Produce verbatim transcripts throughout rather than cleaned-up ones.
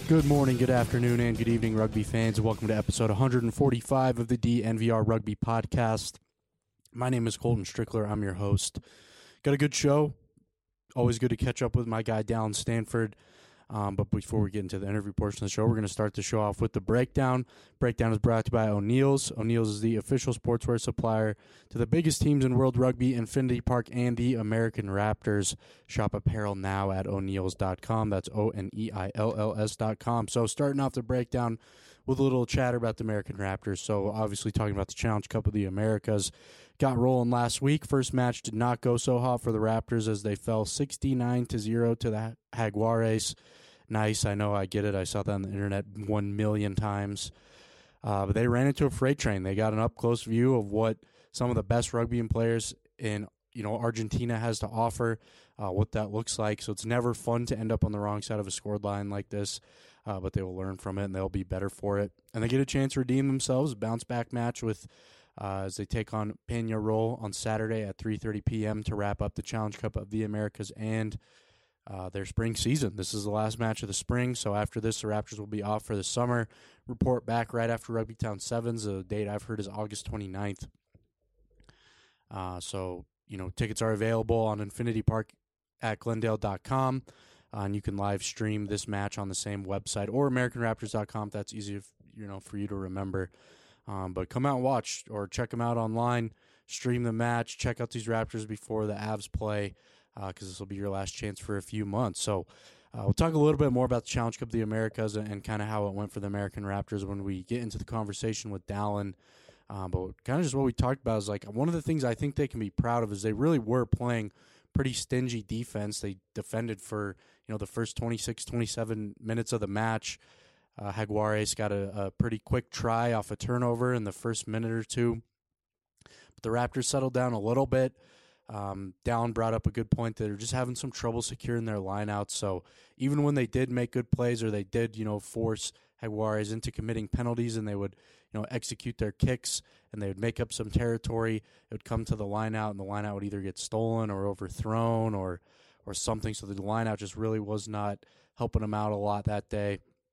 Good morning, good afternoon, and good evening, rugby fans. Welcome to episode one forty-five of the D N V R Rugby Podcast. My name is Colton Strickler. I'm your host. Got a good show. Always good to catch up with my guy, Dallin Stanford. Um, but before we get into the interview portion of the show, we're going to start the show off with the breakdown. Breakdown is brought to you by O'Neill's. O'Neill's is the official sportswear supplier to the biggest teams in world rugby, Infinity Park, and the American Raptors. Shop apparel now at O'Neills dot com. That's O N E I L L S dot com. So starting off the breakdown with a little chatter about the American Raptors. So obviously talking about the Challenge Cup of the Americas. Got rolling last week. First match did not go so hot for the Raptors as they fell sixty-nine to zero to the Jaguares. Nice, I know, I get it. I saw that on the internet one million times. Uh, but they ran into a freight train. They got an up-close view of what some of the best rugby players in you know Argentina has to offer, uh, what that looks like. So it's never fun to end up on the wrong side of a scored line like this, uh, but they will learn from it and they'll be better for it. And they get a chance to redeem themselves, bounce-back match with uh, as they take on Peñarol on Saturday at three thirty p.m. to wrap up the Challenge Cup of the Americas and Uh, their spring season. This is the last match of the spring, so after this, the Raptors will be off for the summer. Report back right after Rugby Town Sevens. The date I've heard is August twenty-ninth. Uh, so, you know, tickets are available on Infinity Park at Glendale dot com, uh, and you can live stream this match on the same website or American Raptors dot com if that's easy, if, you know, for you to remember. Um, but come out and watch or check them out online, stream the match, check out these Raptors before the Avs play, because uh, this will be your last chance for a few months. So uh, we'll talk a little bit more about the Challenge Cup of the Americas and, and kind of how it went for the American Raptors when we get into the conversation with Dallin. Uh, but kind of just what we talked about is like one of the things I think they can be proud of is they really were playing pretty stingy defense. They defended for, you know, the first twenty-six, twenty-seven minutes of the match. Uh, Jaguares got a, a pretty quick try off a turnover in the first minute or two. But the Raptors settled down a little bit. Um, Dallin brought up a good point that they're just having some trouble securing their lineouts. So even when they did make good plays or they did, you know, force Jaguares into committing penalties and they would, you know, execute their kicks and they would make up some territory, it would come to the lineout and the lineout would either get stolen or overthrown or or something. So the lineout just really was not helping them out a lot that day.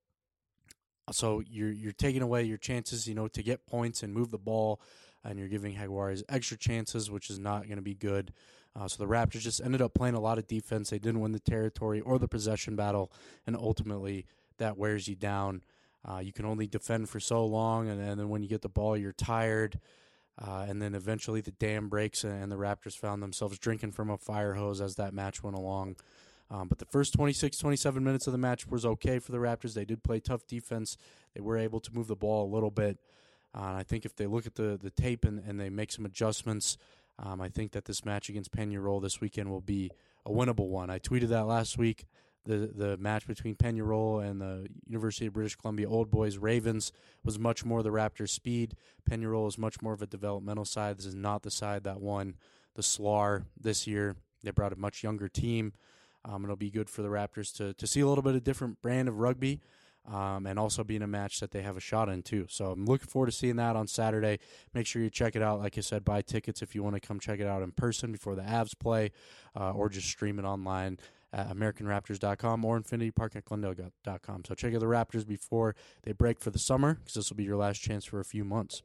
So you're you're taking away your chances, you know, to get points and move the ball, and you're giving Jaguares extra chances, which is not going to be good. Uh, so the Raptors just ended up playing a lot of defense. They didn't win the territory or the possession battle, and ultimately that wears you down. Uh, you can only defend for so long, and, and then when you get the ball, you're tired. Uh, and then eventually the dam breaks, and the Raptors found themselves drinking from a fire hose as that match went along. Um, but the first twenty-six, twenty-seven minutes of the match was okay for the Raptors. They did play tough defense. They were able to move the ball a little bit. Uh, and I think if they look at the, the tape and, and they make some adjustments, um, I think that this match against Peñarol this weekend will be a winnable one. I tweeted that last week. The the match between Peñarol and the University of British Columbia Old Boys Ravens was much more the Raptors' speed. Peñarol is much more of a developmental side. This is not the side that won the S L A R this year. They brought a much younger team. Um, it'll be good for the Raptors to to see a little bit of different brand of rugby. Um, and also be in a match that they have a shot in, too. So I'm looking forward to seeing that on Saturday. Make sure you check it out. Like I said, buy tickets if you want to come check it out in person before the Avs play, uh, or just stream it online at American Raptors dot com or Infinity Park at Glendale dot com. So check out the Raptors before they break for the summer, because this will be your last chance for a few months.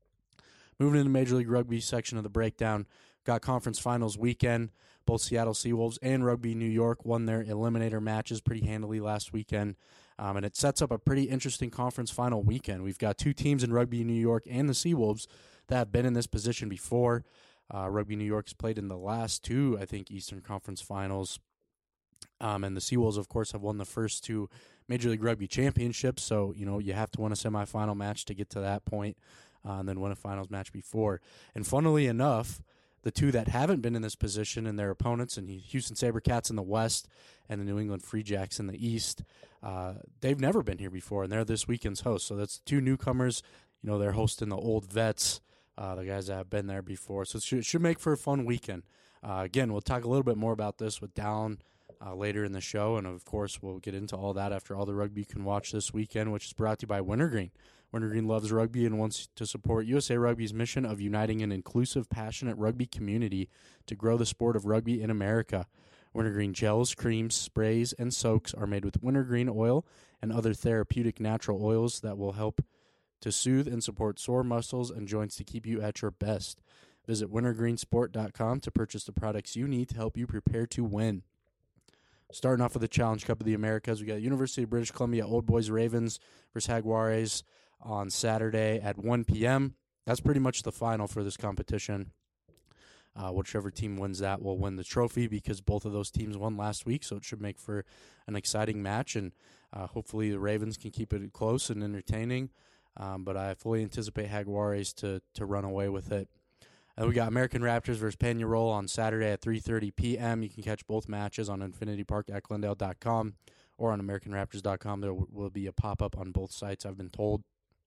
Moving into Major League Rugby section of the breakdown, got conference finals weekend. Both Seattle Seawolves and Rugby New York won their eliminator matches pretty handily last weekend. Um, and it sets up a pretty interesting conference final weekend. We've got two teams in Rugby New York and the Seawolves that have been in this position before. Uh, Rugby New York has played in the last two, I think, Eastern Conference finals. Um, and the Seawolves, of course, have won the first two Major League Rugby championships. So, you know, you have to win a semifinal match to get to that point, uh, and then win a finals match before. And funnily enough, the two that haven't been in this position and their opponents, and Houston SaberCats in the West and the New England Free Jacks in the East, uh, they've never been here before, and they're this weekend's hosts. So that's two newcomers. You know, they're hosting the old vets, uh, the guys that have been there before. So it should, it should make for a fun weekend. Uh, again, we'll talk a little bit more about this with Dallin uh, later in the show, and of course, we'll get into all that after all the rugby you can watch this weekend, which is brought to you by Wintergreen. Wintergreen loves rugby and wants to support U S A Rugby's mission of uniting an inclusive, passionate rugby community to grow the sport of rugby in America. Wintergreen gels, creams, sprays, and soaks are made with wintergreen oil and other therapeutic natural oils that will help to soothe and support sore muscles and joints to keep you at your best. Visit wintergreen sport dot com to purchase the products you need to help you prepare to win. Starting off with the Challenge Cup of the Americas, we got University of British Columbia Old Boys Ravens versus Jaguares on Saturday at one p.m. That's pretty much the final for this competition. Uh, whichever team wins that will win the trophy because both of those teams won last week, so it should make for an exciting match, and uh, hopefully the Ravens can keep it close and entertaining, um, but I fully anticipate Jaguares to, to run away with it. And we got American Raptors versus Peñarol on Saturday at three thirty p.m. You can catch both matches on infinity park at glendale dot com or on american raptors dot com. There will be a pop-up on both sites, I've been told.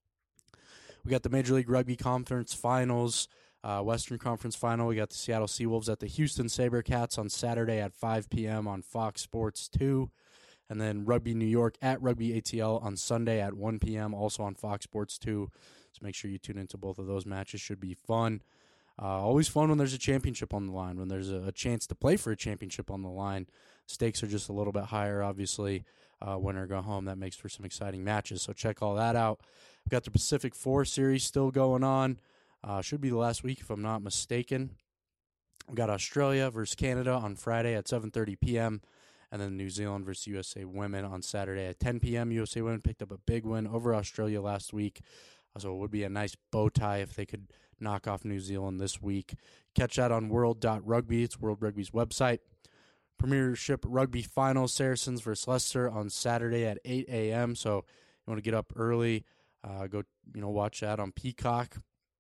We got the Major League Rugby Conference Finals, uh, Western Conference Final. We got the Seattle Seawolves at the Houston SaberCats on Saturday at five p.m. on Fox Sports two. And then Rugby New York at Rugby A T L on Sunday at one p.m. also on Fox Sports two. So make sure you tune into both of those matches. Should be fun. Uh, always fun when there's a championship on the line, when there's a, a chance to play for a championship on the line. Stakes are just a little bit higher, obviously. Uh, winner go home. That makes for some exciting matches. So check all that out. We've got the Pacific Four Series still going on. Uh, should be the last week if I'm not mistaken. We've got Australia versus Canada on Friday at seven thirty p.m. And then New Zealand versus U S A Women on Saturday at ten p.m. U S A Women picked up a big win over Australia last week. So it would be a nice bow tie if they could knock off New Zealand this week. Catch that on world dot rugby. It's World Rugby's website. Premiership Rugby Finals, Saracens versus Leicester on Saturday at eight a.m. So you want to get up early, uh, go you know watch that on Peacock.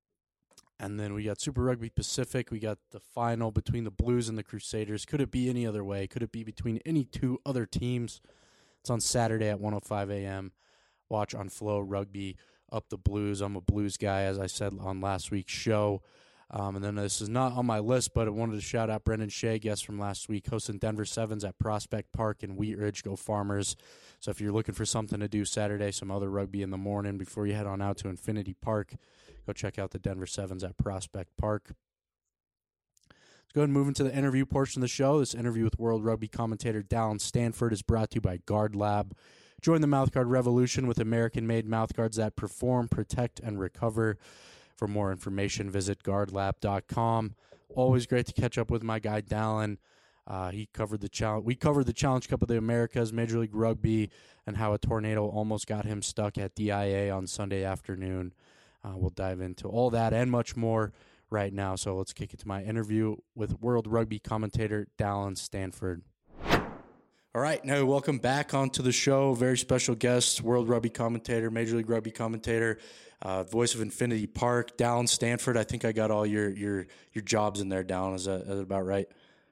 And then we got Super Rugby Pacific. We got the final between the Blues and the Crusaders. Could it be any other way? Could it be between any two other teams? It's on Saturday at one oh five a.m. Watch on Flow Rugby. Up the Blues. I'm a Blues guy, as I said on last week's show. Um, and then this is not on my list, but I wanted to shout out Brendan Shea, guest from last week, hosting Denver Sevens at Prospect Park in Wheat Ridge. Go Farmers. So if you're looking for something to do Saturday, some other rugby in the morning before you head on out to Infinity Park, go check out the Denver Sevens at Prospect Park. Let's go ahead and move into the interview portion of the show. This interview with World Rugby commentator Dallin Stanford is brought to you by Guard Lab. Join the mouthguard revolution with American-made mouthguards that perform, protect, and recover. For more information, visit guard lab dot com. Always great to catch up with my guy Dallin. Uh, he covered the challenge. We covered the Challenge Cup of the Americas, Major League Rugby, and how a tornado almost got him stuck at D I A on Sunday afternoon. Uh, we'll dive into all that and much more right now. So let's kick it to my interview with World Rugby commentator Dallin Stanford. All right, now welcome back onto the show. Very special guest, World Rugby commentator, Major League Rugby commentator, uh, voice of Infinity Park, Dallin Stanford. I think I got all your your your jobs in there, Dallin. Is that, is that about right?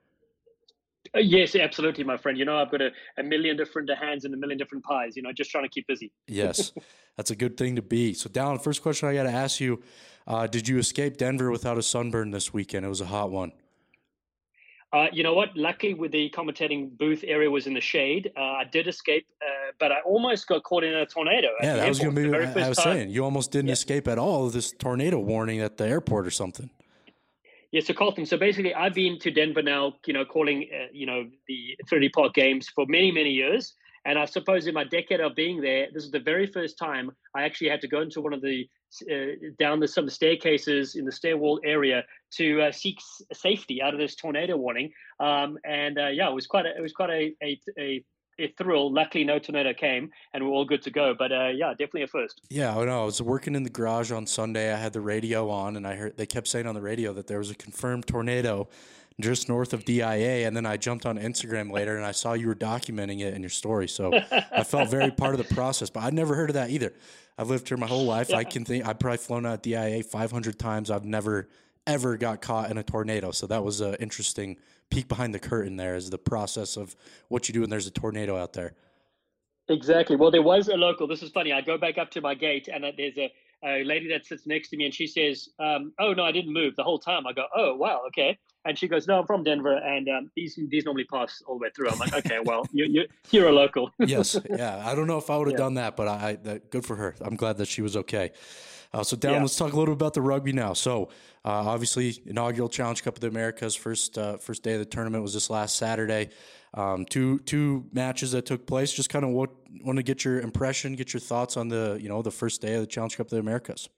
Uh, yes, absolutely, my friend. You know, I've got a, a million different hands and a million different pies, you know, just trying to keep busy. Yes, that's a good thing to be. So, Dallin, first question I got to ask you, uh, did you escape Denver without a sunburn this weekend? It was a hot one. Uh, you know what? Luckily, with the commentating booth area was in the shade, uh, I did escape, uh, but I almost got caught in a tornado. Yeah, that was going to be what I was time. saying. You almost didn't yeah. escape at all this tornado warning at the airport or something. Yeah, so Colton, so basically I've been to Denver now, you know, calling, uh, you know, the Infinity Park games for many, many years. And I suppose in my decade of being there, this is the very first time I actually had to go into one of the, uh, down the, some of the staircases in the stairwell area to uh, seek s- safety out of this tornado warning. Um, and uh, yeah, it was quite a, it was quite a, a, a a thrill. Luckily, no tornado came, and we're all good to go. But uh, yeah, definitely a first. Yeah, I know. I was working in the garage on Sunday. I had the radio on, and I heard they kept saying on the radio that there was a confirmed tornado just north of D I A. And then I jumped on Instagram later, and I saw you were documenting it in your story. So I felt very part of the process. But I'd never heard of that either. I've lived here my whole life. Yeah. I can think I've probably flown out D I A five hundred times. I've never ever got caught in a tornado. So that was an interesting peek behind the curtain there is the process of what you do when there's a tornado out there. Exactly. Well, there was a local. This is funny. I go back up to my gate and there's a, a lady that sits next to me and she says, um, oh, no, I didn't move the whole time. I go, oh, wow. Okay. And she goes, no, I'm from Denver. And um, these these normally pass all the way through. I'm like, okay, well, you, you, you're a local. Yes. Yeah. I don't know if I would have yeah. done that, but I, I that, good for her. I'm glad that she was okay. Uh, so, Down, Yeah. let's talk a little bit about the rugby now. So, uh, obviously, inaugural Challenge Cup of the Americas. First, uh, first day of the tournament was this last Saturday. Um, two two matches that took place. Just kind of what want to get your impression, get your thoughts on the you know the first day of the Challenge Cup of the Americas.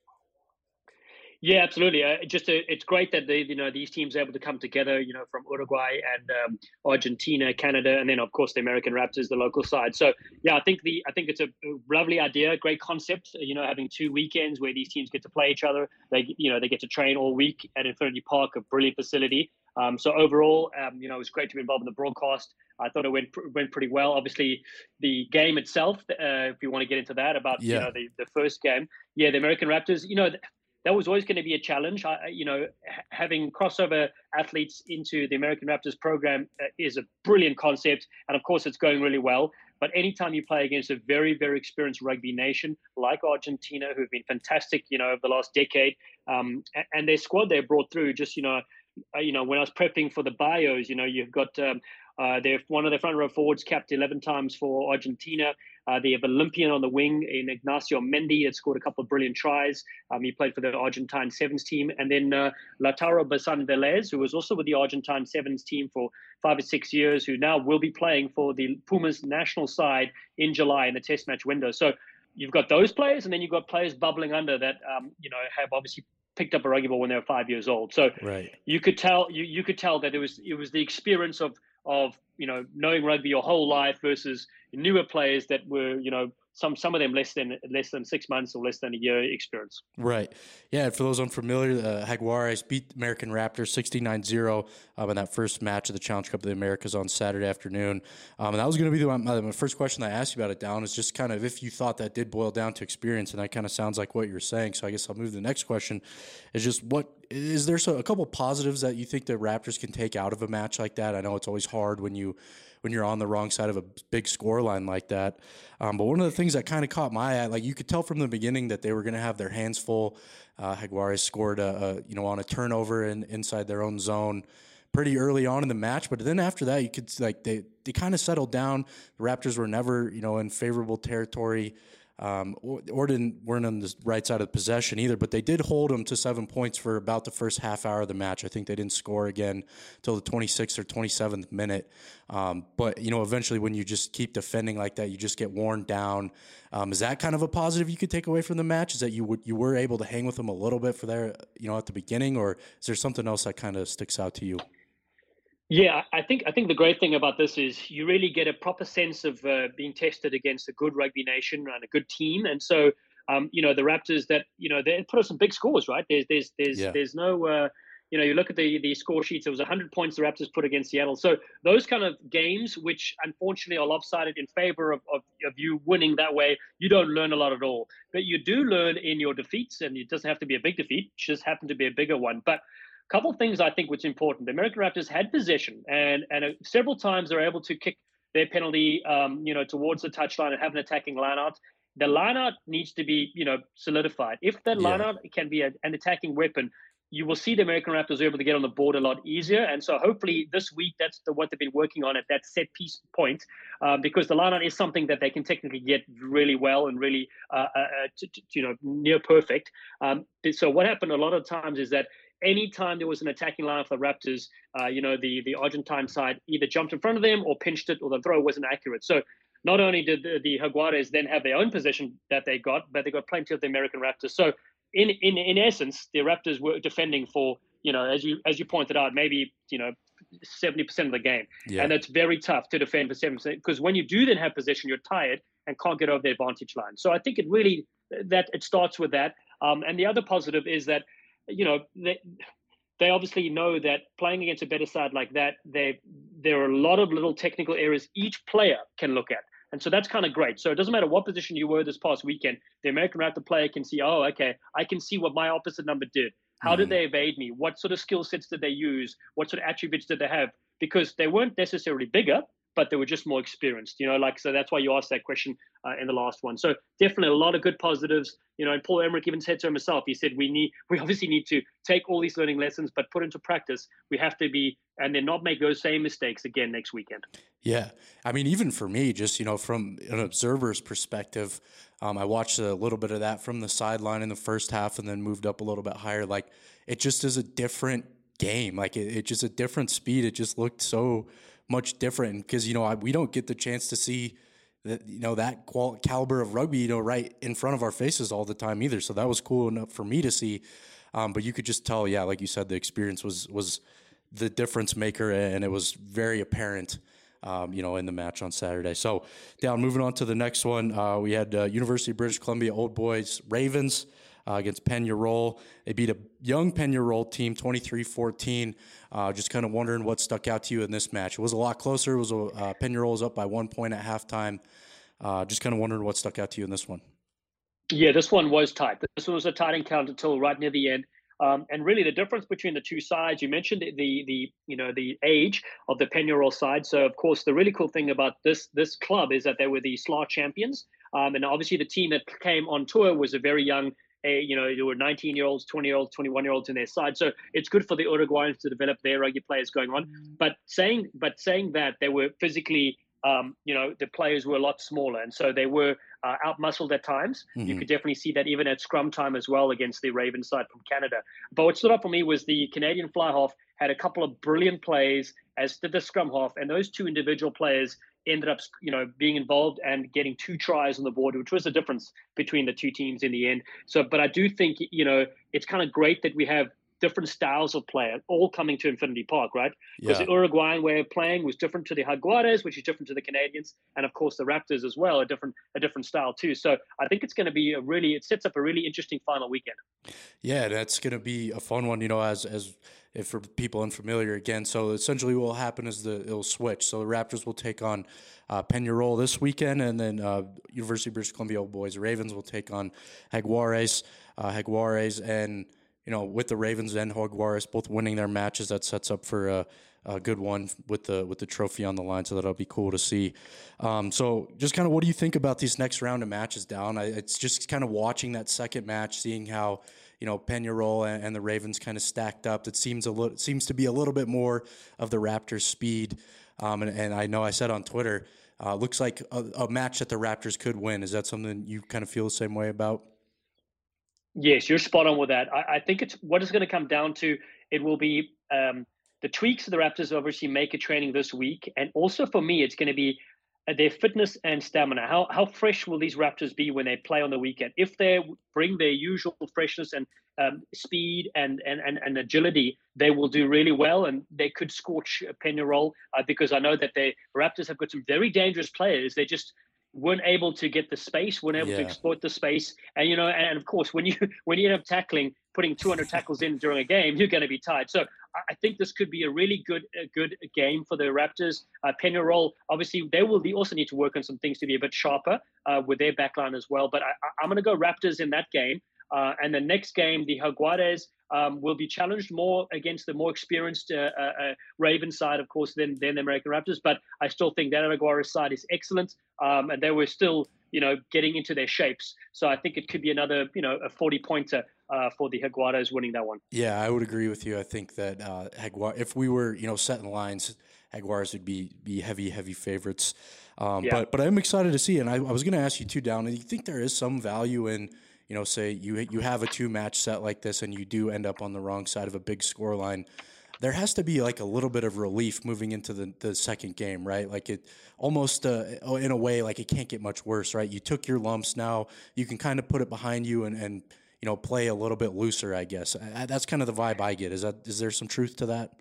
Yeah, absolutely. Uh, just uh, it's great that they, you know, these teams are able to come together, you know, from Uruguay and um, Argentina, Canada, and then of course the American Raptors, the local side. So yeah, I think the I think it's a lovely idea, great concept. You know, having two weekends where these teams get to play each other. They, you know, they get to train all week at Infinity Park, a brilliant facility. Um, so overall, um, you know, it was great to be involved in the broadcast. I thought it went went pretty well. Obviously, the game itself, uh, if you want to get into that, about Yeah. you know the the first game, yeah, the American Raptors, you know. That was always going to be a challenge. I, you know, having crossover athletes into the American Raptors program uh, is a brilliant concept, and of course, it's going really well. But anytime you play against a very, very experienced rugby nation like Argentina, who've been fantastic, you know, over the last decade, um, and, and their squad they brought through, just you know, uh, you know, when I was prepping for the bios, you know, you've got um, uh, they're one of their front row forwards capped eleven times for Argentina. Uh, they have Olympian on the wing in Ignacio Mendy that scored a couple of brilliant tries. Um, he played for the Argentine Sevens team. And then uh, Lautaro Basan Velez, who was also with the Argentine Sevens team for five or six years, who now will be playing for the Pumas national side in July in the test match window. So you've got those players, and then you've got players bubbling under that, um, you know, have obviously picked up a rugby ball when they were five years old. So right. you could tell you, you could tell that it was it was the experience of of you know knowing rugby your whole life versus newer players that were you know some some of them less than less than six months or less than a year experience. Right. Yeah, for those unfamiliar, uh, Jaguares beat American Raptors sixty-nine zero um, in that first match of the Challenge Cup of the Americas on Saturday afternoon. Um, and that was going to be the, my, my first question I asked you about it, Down, is just kind of if you thought that did boil down to experience, and that kind of sounds like what you're saying. So I guess I'll move to the next question, is just what is there so, a couple positives that you think the Raptors can take out of a match like that? I know it's always hard when you when you're on the wrong side of a big score line like that. Um, but one of the things that kind of caught my eye, like you could tell from the beginning that they were going to have their hands full. Uh, Jaguares scored, a, a, you know, on a turnover in, inside their own zone pretty early on in the match. But then after that, you could like they, they kind of settled down. The Raptors were never, you know, in favorable territory. Um, or, or didn't weren't on the right side of possession either, but they did hold them to seven points for about the first half hour of the match. I think they didn't score again till the twenty-sixth or twenty-seventh minute. Um, but you know, eventually, when you just keep defending like that, you just get worn down. Um, is that kind of a positive you could take away from the match? Is that you would you were able to hang with them a little bit for their you know at the beginning, or is there something else that kind of sticks out to you? Yeah, I think I think the great thing about this is you really get a proper sense of uh, being tested against a good rugby nation and a good team, and so um, you know the Raptors that you know they put up some big scores, right? There's there's there's Yeah. there's no uh, you know you look at the the score sheets. It was one hundred points the Raptors put against Seattle. So those kind of games, which unfortunately are lopsided in favor of, of of you winning that way, you don't learn a lot at all. But you do learn in your defeats, and it doesn't have to be a big defeat; it just happened to be a bigger one. But couple of things I think which important. The American Raptors had possession, and and uh, several times they're able to kick their penalty, um, you know, towards the touchline and have an attacking lineout. The lineout needs to be, you know, solidified. If that Yeah. lineout can be a, an attacking weapon, you will see the American Raptors able to get on the board a lot easier. And so hopefully this week that's the, what they've been working on at that set piece point, um, because the lineout is something that they can technically get really well and really, uh, uh, to, to, you know, near perfect. Um, so what happened a lot of times is that anytime there was an attacking line for the Raptors, uh, you know, the, the Argentine side either jumped in front of them or pinched it, or the throw wasn't accurate. So not only did the, the Jaguares then have their own possession that they got, but they got plenty of the American Raptors. So in, in, in essence, the Raptors were defending for, you know, as you as you pointed out, maybe, you know, seventy percent of the game. Yeah. And it's very tough to defend for seventy percent, because when you do then have possession, you're tired and can't get over the advantage line. So I think it really, that it starts with that. Um, and the other positive is that, you know, they, they obviously know that playing against a better side like that, they there are a lot of little technical areas each player can look at. And so that's kind of great. So it doesn't matter what position you were this past weekend, the American Raptor player can see, oh, okay, I can see what my opposite number did. How did they evade me? What sort of skill sets did they use? What sort of attributes did they have? Because they weren't necessarily bigger, but they were just more experienced. You know, like so that's why you asked that question uh, in the last one. So definitely a lot of good positives. You know, and Paul Emmerich even said to himself, he said, we need, we obviously need to take all these learning lessons, but put into practice. We have to be, and then not make those same mistakes again next weekend. Yeah. I mean, even for me, just, you know, from an observer's perspective, um, I watched a little bit of that from the sideline in the first half and then moved up a little bit higher. Like, it just is a different game. Like, it, it just a different speed. It just looked so much different because, you know, I, we don't get the chance to see that, you know, that qual- caliber of rugby, you know, right in front of our faces all the time either. So that was cool enough for me to see. Um, but you could just tell, yeah, like you said, the experience was, was the difference maker, and it was very apparent, um, you know, in the match on Saturday. So, down, moving on to the next one, uh, we had uh, University of British Columbia Old Boys Ravens uh, against Peñarol. They beat a young Peñarol team twenty-three fourteen. Uh, just kind of wondering what stuck out to you in this match. It was a lot closer. It was a, uh, Peñarol was up by one point at halftime. Uh, just kind of wondering what stuck out to you in this one. Yeah, this one was tight. This one was a tight encounter until right near the end. Um, and really, the difference between the two sides, you mentioned the, the the you know the age of the Peñarol side. So, of course, the really cool thing about this this club is that they were the S L A champions, um, and obviously the team that came on tour was a very young. Uh, you know, there were nineteen year olds, twenty year olds, twenty-one year olds in their side. So it's good for the Uruguayans to develop their rugby players going on. But saying but saying that they were physically. Um, you know, the players were a lot smaller, and so they were uh, outmuscled at times. Mm-hmm. You could definitely see that even at scrum time as well against the Ravens side from Canada. But what stood out for me was the Canadian fly half had a couple of brilliant plays, as did the scrum half, and those two individual players ended up, you know, being involved and getting two tries on the board, which was the difference between the two teams in the end. So, but I do think, you know, it's kind of great that we have different styles of play all coming to Infinity Park, right? Because yeah. the Uruguayan way of playing was different to the Jaguares, which is different to the Canadians, and of course the Raptors as well, a different a different style too. So I think it's going to be a really, it sets up a really interesting final weekend. Yeah, that's going to be a fun one, you know, as as if for people unfamiliar again. So essentially what will happen is the it'll switch. So the Raptors will take on uh, Peñarol this weekend, and then uh, University of British Columbia Old Boys Ravens will take on Jaguares, uh, Jaguares, and you know, with the Ravens and Jaguares both winning their matches, that sets up for a, a good one with the with the trophy on the line. So that'll be cool to see. Um, so just kind of, what do you think about these next round of matches, Down? I, it's just kind of watching that second match, seeing how, you know, Peñarol and, and the Ravens kind of stacked up. It seems a little seems to be a little bit more of the Raptors' speed. Um, and, and I know I said on Twitter, uh, looks like a, a match that the Raptors could win. Is that something you kind of feel the same way about? Yes, you're spot on with that. I, I think it's what it's going to come down to. It will be um, the tweaks the Raptors obviously make at training this week, and also for me, it's going to be uh, their fitness and stamina. How how fresh will these Raptors be when they play on the weekend? If they bring their usual freshness and um, speed and, and and and agility, they will do really well, and they could scorch Peñarol uh, because I know that the Raptors have got some very dangerous players. They just weren't able to get the space, weren't able yeah. to exploit the space. And, you know, and of course, when you when you end up tackling, putting two hundred tackles in during a game, you're going to be tired. So I think this could be a really good a good game for the Raptors. Uh, Peñarol, obviously, they will also need to work on some things to be a bit sharper uh, with their backline as well. But I, I'm going to go Raptors in that game. Uh, and the next game, the Jaguares um, will be challenged more against the more experienced uh, uh, Ravens side, of course, than, than the American Raptors. But I still think that Jaguares side is excellent. Um, and they were still, you know, getting into their shapes. So I think it could be another, you know, a forty-pointer uh, for the Jaguares winning that one. Yeah, I would agree with you. I think that uh, Jaguar, if we were, you know, setting lines, Jaguares would be be heavy, heavy favorites. Um, yeah. But but I'm excited to see. And I, I was going to ask you too, Down. Do you think there is some value in, you know, say you you have a two match set like this and you do end up on the wrong side of a big score line? There has to be like a little bit of relief moving into the, the second game, right? Like it almost uh, in a way, like it can't get much worse, right? You took your lumps. Now you can kind of put it behind you and, and you know, play a little bit looser, I guess. I, that's kind of the vibe I get. Is that, is there some truth to that?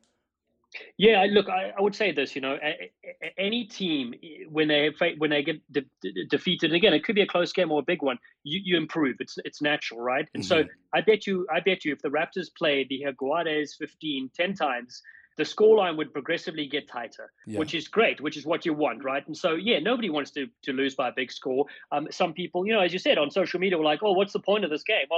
Yeah, look, I, I would say this. You know, a, a, any team when they when they get de- de- defeated, and again, it could be a close game or a big one. You, you improve. It's it's natural, right? And mm-hmm. so I bet you, I bet you, if the Raptors played the Jaguares fifteen, ten times, the scoreline would progressively get tighter, yeah. which is great, which is what you want, right? And so, yeah, nobody wants to to lose by a big score. Um, some people, you know, as you said on social media, were like, "Oh, what's the point of this game?" Well,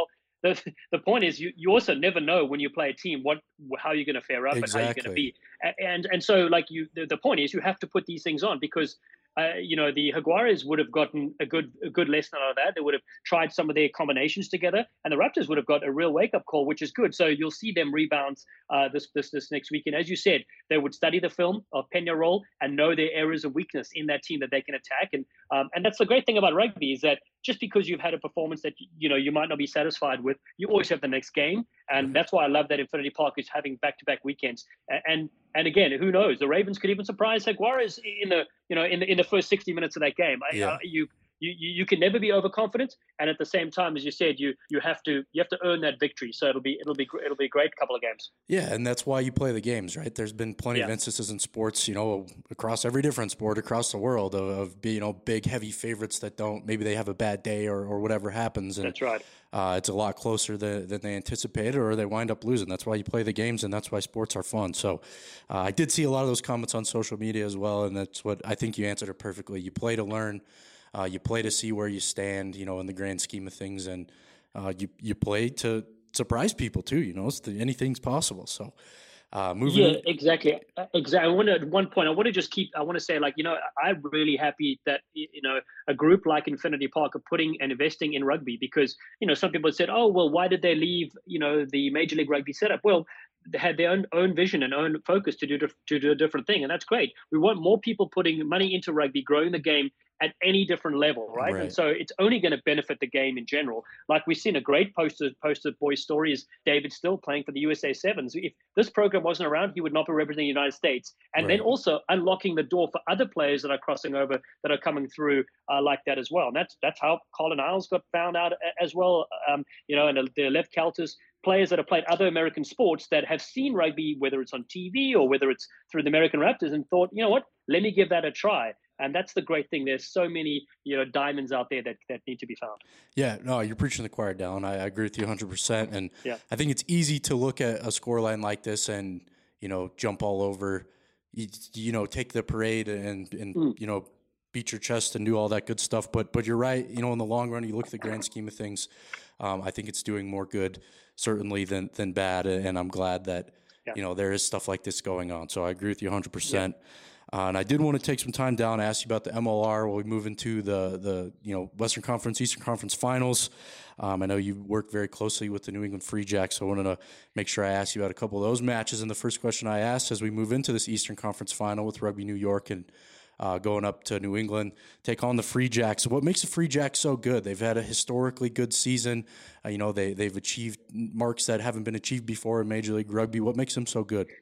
the the point is, you, you also never know when you play a team what how you're going to fare up and how you're going to Exactly. be. And and so like you, the, the point is you have to put these things on because. Uh, you know, the Jaguares would have gotten a good a good lesson out of that. They would have tried some of their combinations together, and the Raptors would have got a real wake up call, which is good. So you'll see them rebound uh, this this this next weekend. As you said, they would study the film of Peñarol and know their areas of weakness in that team that they can attack. And um, and that's the great thing about rugby is that just because you've had a performance that you know you might not be satisfied with, you always have the next game, and that's why I love that Infinity Park is having back to back weekends. And and again, who knows? The Ravens could even surprise Jaguares in the you know in the in the first sixty minutes of that game. I, Yeah. uh, you you you can never be overconfident, and at the same time, as you said, you you have to you have to earn that victory. So it'll be it'll be it'll be a great couple of games. Yeah, and that's why you play the games, right? There's been plenty Yeah. of instances in sports, you know, across every different sport across the world of, of you know big heavy favorites that don't maybe they have a bad day or, or whatever happens, and That's right. uh, it's a lot closer than, than they anticipated, or they wind up losing. That's why you play the games, and that's why sports are fun. So uh, I did see a lot of those comments on social media as well, and that's what I think you answered it perfectly. You play to learn, uh, you play to see where you stand, you know, in the grand scheme of things, and uh, you you play to surprise people too. You know, it's the, anything's possible. So. Uh, moving Yeah, in, exactly. Uh, Exactly. I want to, at one point, I want to just keep, I want to say, like, you know, I'm really happy that, y- you know, a group like Infinity Park are putting and investing in rugby because, you know, some people said, oh, well, why did they leave, you know, the Major League Rugby setup? Well, they had their own, own vision and own focus to do, dif- to do a different thing. And that's great. We want more people putting money into rugby, growing the game at any different level, right? And right, so it's only going to benefit the game in general. Like we've seen a great poster poster boy story is David Still playing for the U S A Sevens. If this program wasn't around, he would not be representing the United States. And then right. also unlocking the door for other players that are crossing over that are coming through uh, like that as well. And that's that's how Colin Isles got found out as well. Um, you know, and the, the Lev Kelters, players that have played other American sports that have seen rugby, whether it's on T V or whether it's through the American Raptors, and thought, you know what, let me give that a try. And that's the great thing. There's so many, you know, diamonds out there that, that need to be found. Yeah, no, you're preaching the choir, Dallin. I, I agree with you one hundred percent. And Yeah. I think it's easy to look at a scoreline like this and, you know, jump all over, you, you know, take the parade and, and Mm. you know, beat your chest and do all that good stuff. But but you're right. You know, in the long run, you look at the grand scheme of things, um, I think it's doing more good, certainly, than, than bad. And I'm glad that, Yeah. you know, there is stuff like this going on. So I agree with you one hundred percent. Yeah. Uh, and I did want to take some time down and ask you about the M L R while we move into the the you know Western Conference, Eastern Conference finals. Um, I know you worked very closely with the New England Free Jacks, so I wanted to make sure I asked you about a couple of those matches. And the first question I asked as we move into this Eastern Conference final with Rugby New York and uh, going up to New England, take on the Free Jacks. What makes the Free Jacks so good? They've had a historically good season. Uh, you know, they they've achieved marks that haven't been achieved before in Major League Rugby. What makes them so good?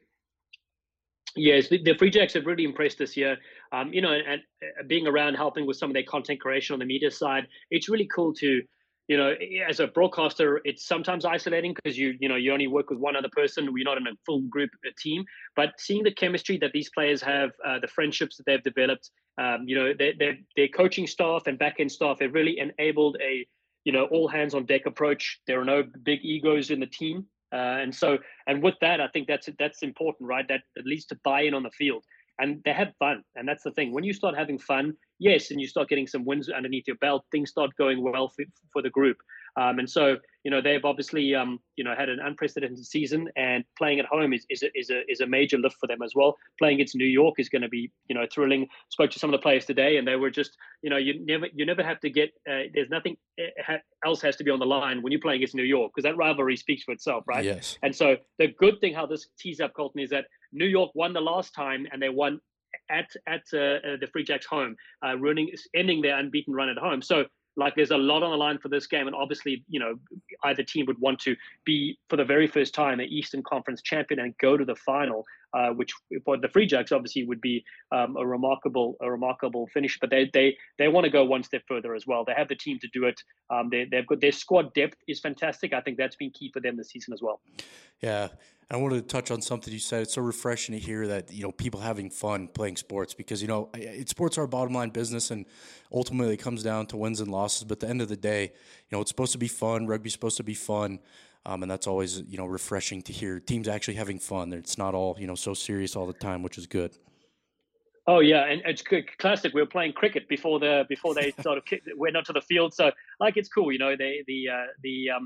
Yes, the, the Free Jacks have really impressed this year. Um, you know, and, and uh, being around helping with some of their content creation on the media side, it's really cool to, you know, as a broadcaster, it's sometimes isolating because you, you know, you only work with one other person. You're not in a full group, a team. But seeing the chemistry that these players have, uh, the friendships that they've developed, um, you know, their their their coaching staff and back end staff have really enabled a, you know, all hands on deck approach. There are no big egos in the team. Uh, and so, and with that, I think that's that's important, right? That at least to buy in on the field, and they have fun, and that's the thing. When you start having fun, yes, and you start getting some wins underneath your belt, things start going well for, for the group. Um, and so, you know, they've obviously, um, you know, had an unprecedented season, and playing at home is is a, is a is a major lift for them as well. Playing against New York is going to be, you know, thrilling. Spoke to some of the players today, and they were just, you know, you never you never have to get. Uh, there's nothing else has to be on the line when you're playing against New York because that rivalry speaks for itself, right? Yes. And so the good thing how this tees up, Colton, is that New York won the last time, and they won at at uh, the Free Jacks home, uh, running ending their unbeaten run at home. So. Like there's a lot on the line for this game, and obviously, you know, either team would want to be for the very first time an Eastern Conference champion and go to the final, uh, which for the Free Jacks obviously would be um, a remarkable, a remarkable finish. But they they they want to go one step further as well. They have the team to do it. Um, they they've got their squad depth is fantastic. I think that's been key for them this season as well. Yeah. I wanted to touch on something you said. It's so refreshing to hear that, you know, people having fun playing sports because, you know, it, sports are a bottom line business and ultimately it comes down to wins and losses. But at the end of the day, you know, it's supposed to be fun. Rugby's supposed to be fun. Um, and that's always, you know, refreshing to hear teams actually having fun. It's not all, you know, so serious all the time, which is good. Oh yeah, and it's classic. We were playing cricket before the before they sort of kicked, went onto the field, so like it's cool, you know. They the uh, the um,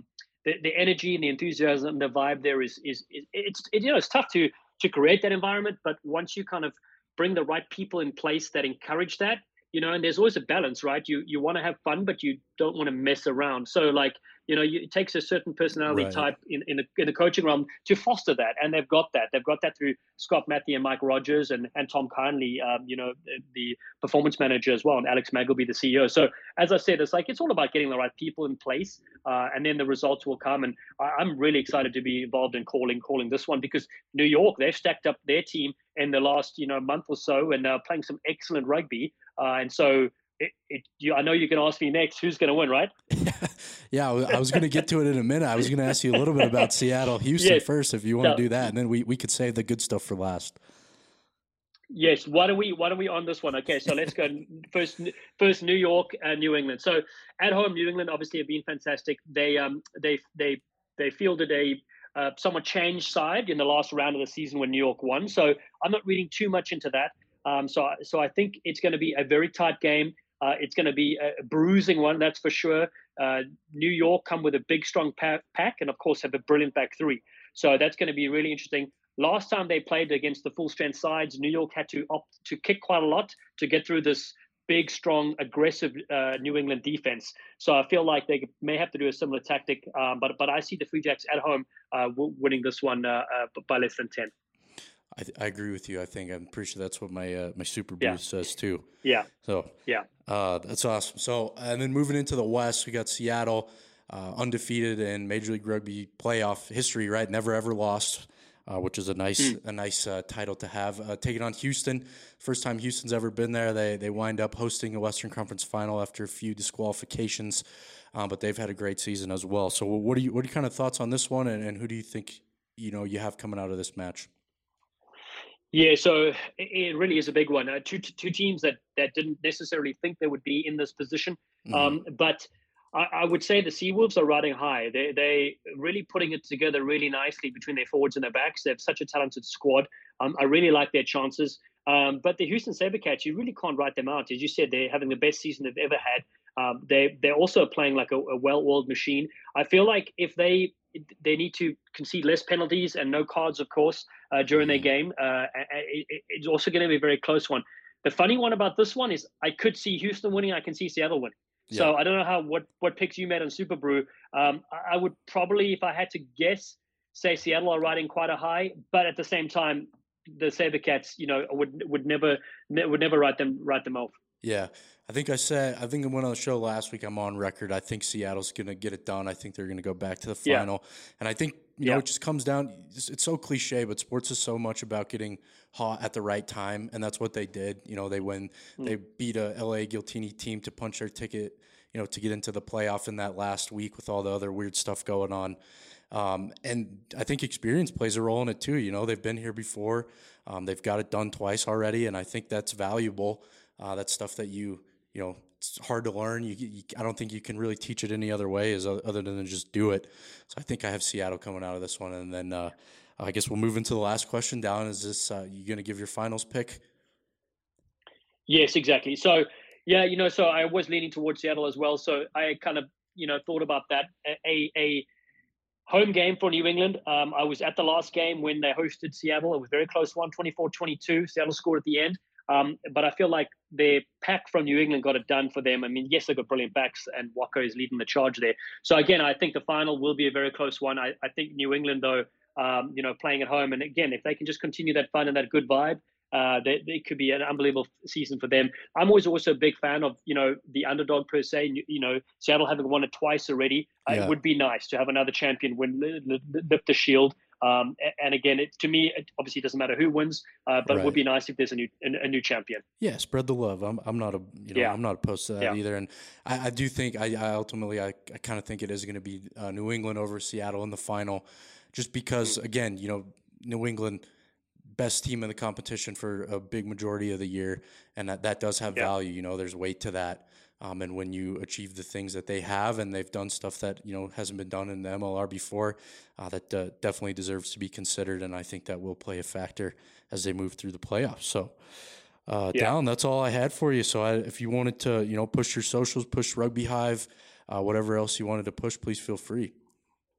the, the energy and the enthusiasm, the vibe there is is, is it's it, you know it's tough to to create that environment, but once you kind of bring the right people in place that encourage that, you know, and there's always a balance, right? You you want to have fun, but you don't want to mess around. So like, you know, you, it takes a certain personality Right. type in in the, in the coaching realm to foster that, and they've got that. They've got that through Scott Matthew and Mike Rogers and and Tom Kindley, um, you know, the, the performance manager as well, and Alex Magleby, the C E O. So as I said, it's like it's all about getting the right people in place, uh, and then the results will come. And I, I'm really excited to be involved in calling calling this one because New York, they've stacked up their team in the last you know month or so, and uh, playing some excellent rugby. Uh, and so, it, it, you, I know you can ask me next who's going to win, right? Yeah, I was going to get to it in a minute. I was going to ask you a little bit about Seattle, Houston yes. first, if you want so, to do that, and then we, we could save the good stuff for last. Yes. Why don't we Why don't we on this one? Okay, so let's go first. First, New York and New England. So at home, New England obviously have been fantastic. They um they they they fielded a uh, somewhat changed side in the last round of the season when New York won. So I'm not reading too much into that. Um, so, so I think it's going to be a very tight game. Uh, it's going to be a bruising one, that's for sure. Uh, New York come with a big, strong pack, pack, and of course have a brilliant back three. So that's going to be really interesting. Last time they played against the full strength sides, New York had to opt to kick quite a lot to get through this big, strong, aggressive uh, New England defense. So I feel like they may have to do a similar tactic. Um, but but I see the Free Jacks at home uh, winning this one uh, uh, by less than ten. I, I agree with you. I think I'm pretty sure that's what my uh, my Super Boost yeah. says too. Yeah. So yeah, uh, that's awesome. So and then moving into the West, we got Seattle, uh, undefeated in Major League Rugby playoff history. Right, never ever lost, uh, which is a nice mm. a nice uh, title to have. Uh, taking on Houston, first time Houston's ever been there. They they wind up hosting a Western Conference final after a few disqualifications, um, but they've had a great season as well. So what are you what are your kind of thoughts on this one, and, and who do you think you know you have coming out of this match? Yeah, so it really is a big one. Uh, two two teams that, that didn't necessarily think they would be in this position, mm-hmm. um, but I, I would say the Seawolves are riding high. They they really putting it together really nicely between their forwards and their backs. They have such a talented squad. Um, I really like their chances. Um, but the Houston Sabercats, you really can't write them out. As you said, they're having the best season they've ever had. Um, they they're also playing like a, a well-oiled machine. I feel like if they they need to concede less penalties and no cards, of course, uh, during their game. Uh, it, it's also going to be a very close one. The funny one about this one is I could see Houston winning. I can see Seattle winning. Yeah. So I don't know how what, what picks you made on Super Brew. Um, I would probably, if I had to guess, say Seattle are riding quite a high, but at the same time, the Sabercats, you know, would would never would never write them write them off. Yeah, I think I said, I think I went on the show last week, I'm on record. I think Seattle's going to get it done. I think they're going to go back to the final. Yeah. And I think, you yeah. know, it just comes down, it's, it's so cliche, but sports is so much about getting hot at the right time. And that's what they did. You know, they win, mm. they beat a L A Giltini team to punch their ticket, you know, to get into the playoff in that last week with all the other weird stuff going on. Um, and I think experience plays a role in it too. You know, they've been here before. Um, they've got it done twice already. And I think that's valuable. Uh, that's stuff that you, you know, it's hard to learn. You, you, I don't think you can really teach it any other way as other than to just do it. So I think I have Seattle coming out of this one. And then uh, I guess we'll move into the last question. Dallin, is this, uh, you going to give your finals pick? Yes, exactly. So, yeah, you know, so I was leaning towards Seattle as well. So I kind of, you know, thought about that. A, a home game for New England. Um, I was at the last game when they hosted Seattle. It was a very close one, twenty-four twenty-two. Seattle scored at the end. Um, but I feel like their pack from New England got it done for them. I mean, yes, they've got brilliant backs, and Wako is leading the charge there. So again, I think the final will be a very close one. I, I think New England, though, um, you know, playing at home, and again, if they can just continue that fun and that good vibe, uh, they, they could be an unbelievable season for them. I'm always also a big fan of, you know, the underdog per se. You know, Seattle having won it twice already. Yeah. Uh, it would be nice to have another champion win, lift the shield. Um, and again, it, to me, it obviously doesn't matter who wins, uh, but right. it would be nice if there's a new a, a new champion. Yeah, spread the love. I'm I'm not a you know yeah. I'm not opposed to that yeah. either, and I, I do think I, I ultimately I, I kind of think it is going to be uh, New England over Seattle in the final, just because mm-hmm. again, you know, New England best team in the competition for a big majority of the year, and that that does have yeah. value. You know, there's weight to that. Um, and when you achieve the things that they have, and they've done stuff that, you know, hasn't been done in the M L R before, uh, that uh, definitely deserves to be considered. And I think that will play a factor as they move through the playoffs. So, uh, yeah. Dallin, that's all I had for you. So I, if you wanted to, you know, push your socials, push Rugby Hive, uh, whatever else you wanted to push, please feel free.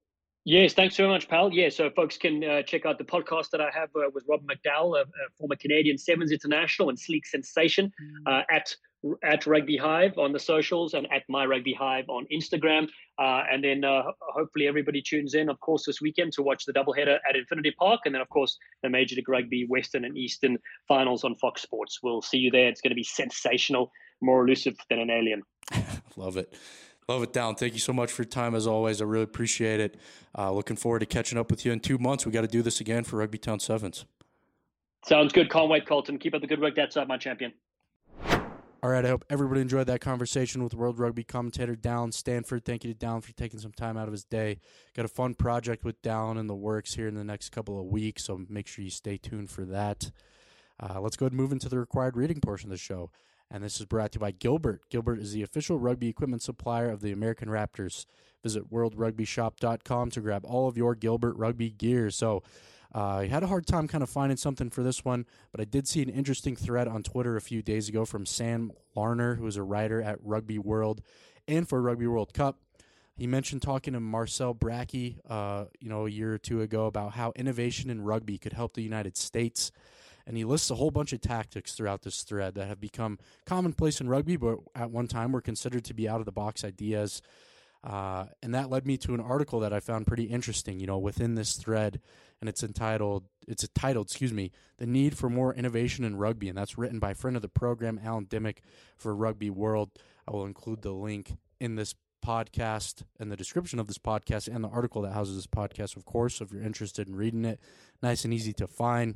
Yes, thanks very much, pal. Yeah, so folks can uh, check out the podcast that I have uh, with Rob McDowell, a, a former Canadian Sevens international and sleek sensation, uh, at at Rugby Hive on the socials and at My Rugby Hive on Instagram. Uh, and then uh, hopefully everybody tunes in, of course, this weekend to watch the doubleheader at Infinity Park. And then, of course, the Major League Rugby Western and Eastern finals on Fox Sports. We'll see you there. It's going to be sensational, more elusive than an alien. Love it. Love it, Down. Thank you so much for your time, as always. I really appreciate it. Uh, looking forward to catching up with you in two months. We got to do this again for Rugby Town Sevens. Sounds good. Can't wait, Colton. Keep up the good work. That's up, my champion. All right, I hope everybody enjoyed that conversation with World Rugby commentator Dallin Stanford. Thank you to Dallin for taking some time out of his day. Got a fun project with Dallin in the works here in the next couple of weeks, so make sure you stay tuned for that. Uh, let's go ahead and move into the required reading portion of the show. And this is brought to you by Gilbert. Gilbert is the official rugby equipment supplier of the American Raptors. Visit world rugby shop dot com to grab all of your Gilbert rugby gear. So uh, I had a hard time kind of finding something for this one, but I did see an interesting thread on Twitter a few days ago from Sam Larner, who is a writer at Rugby World and for Rugby World Cup. He mentioned talking to Marcel Brackey, uh, you know, a year or two ago about how innovation in rugby could help the United States. And he lists a whole bunch of tactics throughout this thread that have become commonplace in rugby, but at one time were considered to be out-of-the-box ideas. Uh, and that led me to an article that I found pretty interesting, you know, within this thread, and it's entitled, it's titled, excuse me, The Need for More Innovation in Rugby, and that's written by friend of the program, Alan Dimmick, for Rugby World. I will include the link in this podcast and the description of this podcast and the article that houses this podcast, of course, so if you're interested in reading it, nice and easy to find.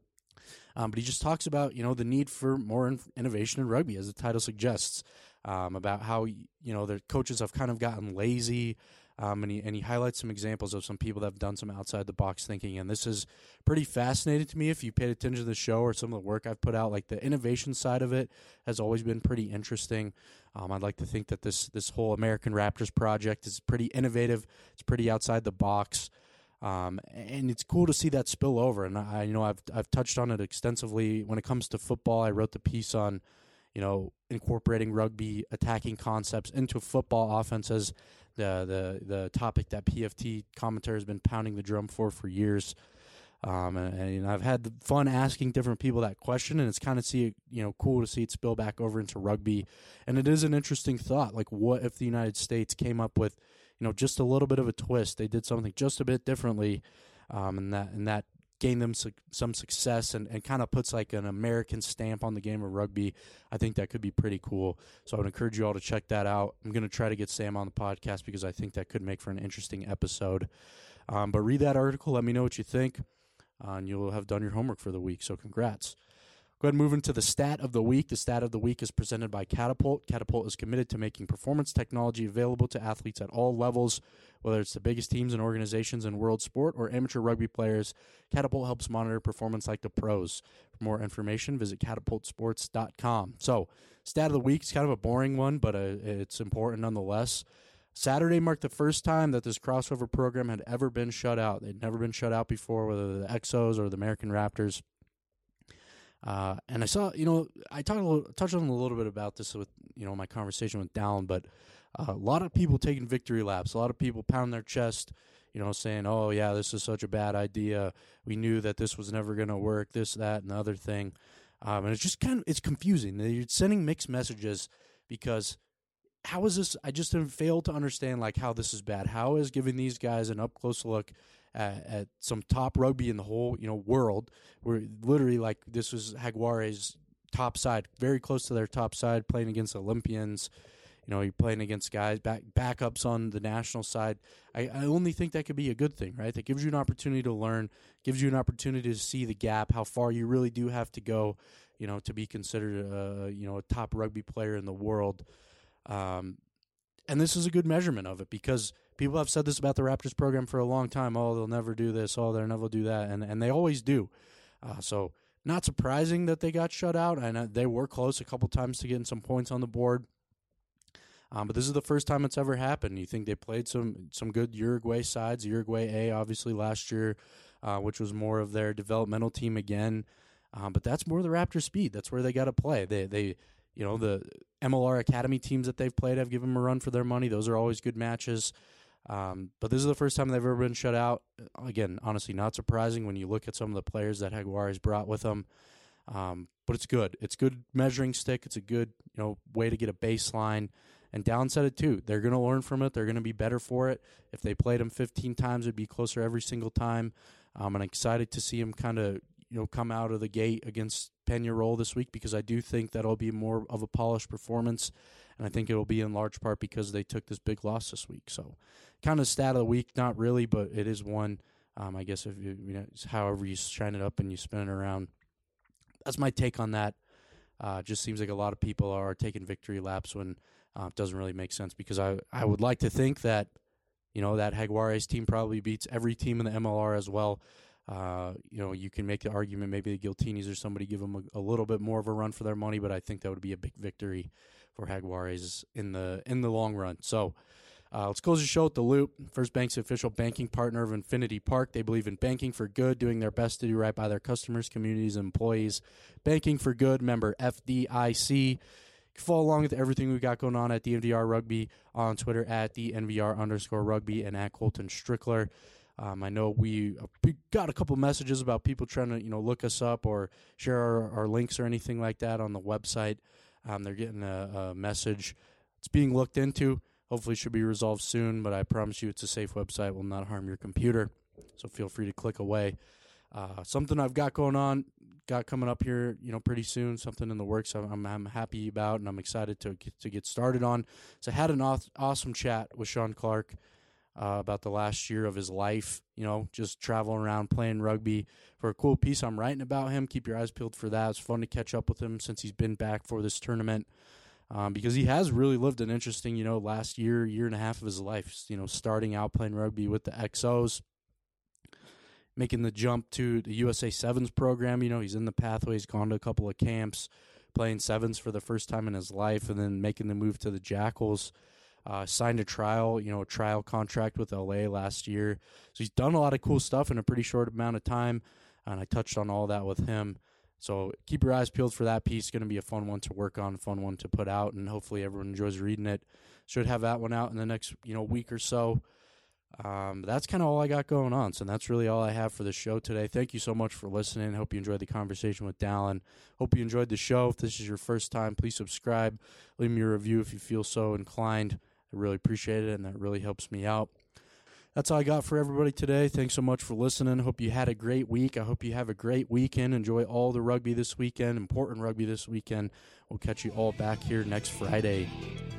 Um, but he just talks about, you know, the need for more in- innovation in rugby, as the title suggests, um, about how, you know, the coaches have kind of gotten lazy, um, and he and he highlights some examples of some people that have done some outside-the-box thinking, and this is pretty fascinating to me if you paid attention to the show or some of the work I've put out. Like, the innovation side of it has always been pretty interesting. Um, I'd like to think that this, this whole American Raptors project is pretty innovative. It's pretty outside the box. Um, and it's cool to see that spill over. And I, you know, I've I've touched on it extensively when it comes to football. I wrote the piece on, you know, incorporating rugby attacking concepts into football offenses, the the the topic that P F T commentator has been pounding the drum for for years. Um, and, and you know, I've had fun asking different people that question, and it's kind of see you know cool to see it spill back over into rugby. And it is an interesting thought. Like, what if the United States came up with, you know, just a little bit of a twist? They did something just a bit differently, um, and that and that gained them su- some success and, and kind of puts like an American stamp on the game of rugby. I think that could be pretty cool. So I would encourage you all to check that out. I'm going to try to get Sam on the podcast because I think that could make for an interesting episode. Um, but read that article. Let me know what you think, uh, and you'll have done your homework for the week. So congrats. Go ahead and move into the stat of the week. The stat of the week is presented by Catapult. Catapult is committed to making performance technology available to athletes at all levels, whether it's the biggest teams and organizations in world sport or amateur rugby players. Catapult helps monitor performance like the pros. For more information, visit catapult sports dot com. So, stat of the week is kind of a boring one, but uh, it's important nonetheless. Saturday marked the first time that this crossover program had ever been shut out. They'd never been shut out before, whether the Exos or the American Raptors. Uh, and I saw, you know, I talked a little, touched on a little bit about this with, you know, my conversation with Dallin, but uh, a lot of people taking victory laps, a lot of people pounding their chest, you know, saying, oh, yeah, this is such a bad idea. We knew that this was never going to work, this, that, and the other thing. Um, and it's just kind of, it's confusing. You're sending mixed messages because how is this, I just failed to understand, like, how this is bad. How is giving these guys an up-close look At, at some top rugby in the whole, you know, world, where literally, like, this was Jaguares' top side, very close to their top side, playing against Olympians. You know, you're playing against guys, back backups on the national side. I, I only think that could be a good thing, right? That gives you an opportunity to learn, gives you an opportunity to see the gap, how far you really do have to go, you know, to be considered, a, you know, a top rugby player in the world. Um, and this is a good measurement of it because people have said this about the Raptors program for a long time. Oh, they'll never do this. Oh, they'll never do that. And and they always do. Uh, so not surprising that they got shut out. And uh, they were close a couple times to getting some points on the board. Um, but this is the first time it's ever happened. You think they played some some good Uruguay sides. Uruguay A, obviously, last year, uh, which was more of their developmental team again. Um, but that's more the Raptors' speed. That's where they got to play. They they you know, the M L R Academy teams that they've played have given them a run for their money. Those are always good matches. Um, but this is the first time they've ever been shut out. Again, honestly, not surprising when you look at some of the players that Jaguares brought with them. Um, but it's good. It's good measuring stick. It's a good, you know, way to get a baseline. And Dallin said it too. They're going to learn from it. They're going to be better for it. If they played him fifteen times, it'd be closer every single time. Um, and I'm excited to see him kind of, you know, come out of the gate against Peñarol this week, because I do think that'll be more of a polished performance. And I think it'll be in large part because they took this big loss this week. So kind of stat of the week, not really, but it is one. Um, I guess if you, you know, however you shine it up and you spin it around. That's my take on that. Uh, just seems like a lot of people are taking victory laps when uh, it doesn't really make sense, because I, I would like to think that, you know, that Jaguares team probably beats every team in the M L R as well. Uh, you know, you can make the argument maybe the Giltinis or somebody give them a, a little bit more of a run for their money, but I think that would be a big victory for Jaguares in the in the long run. So uh, let's close the show with the Loop. First Bank's official banking partner of Infinity Park. They believe in banking for good, doing their best to do right by their customers, communities, and employees. Banking for good, member F D I C. You can follow along with everything we got going on at D N V R Rugby on Twitter at D N V R underscore rugby and at Colton Strickler. Um, I know we, we got a couple messages about people trying to, you know, look us up or share our, our links or anything like that on the website. Um, they're getting a, a message. It's being looked into. Hopefully it should be resolved soon, but I promise you it's a safe website. It will not harm your computer, so feel free to click away. Uh, something I've got going on, got coming up here, you know, pretty soon, something in the works I'm, I'm, I'm happy about and I'm excited to get, to get started on. So I had an aw- awesome chat with Sean Clark Uh, about the last year of his life, you know, just traveling around playing rugby, for a cool piece I'm writing about him. Keep your eyes peeled for that. It's fun to catch up with him since he's been back for this tournament, um, because he has really lived an interesting, you know, last year, year and a half of his life, you know, starting out playing rugby with the X Os, making the jump to the U S A Sevens program. You know, he's in the pathway. He's gone to a couple of camps, playing Sevens for the first time in his life, and then making the move to the Jackals. Uh, signed a trial, you know, a trial contract with L A last year. So he's done a lot of cool stuff in a pretty short amount of time, and I touched on all that with him. So keep your eyes peeled for that piece. It's going to be a fun one to work on, fun one to put out, and hopefully everyone enjoys reading it. Should have that one out in the next, you know, week or so. Um, that's kind of all I got going on, so that's really all I have for the show today. Thank you so much for listening. Hope you enjoyed the conversation with Dallin. Hope you enjoyed the show. If this is your first time, please subscribe. Leave me a review if you feel so inclined. I really appreciate it, and that really helps me out. That's all I got for everybody today. Thanks so much for listening. Hope you had a great week. I hope you have a great weekend. Enjoy all the rugby this weekend, important rugby this weekend. We'll catch you all back here next Friday.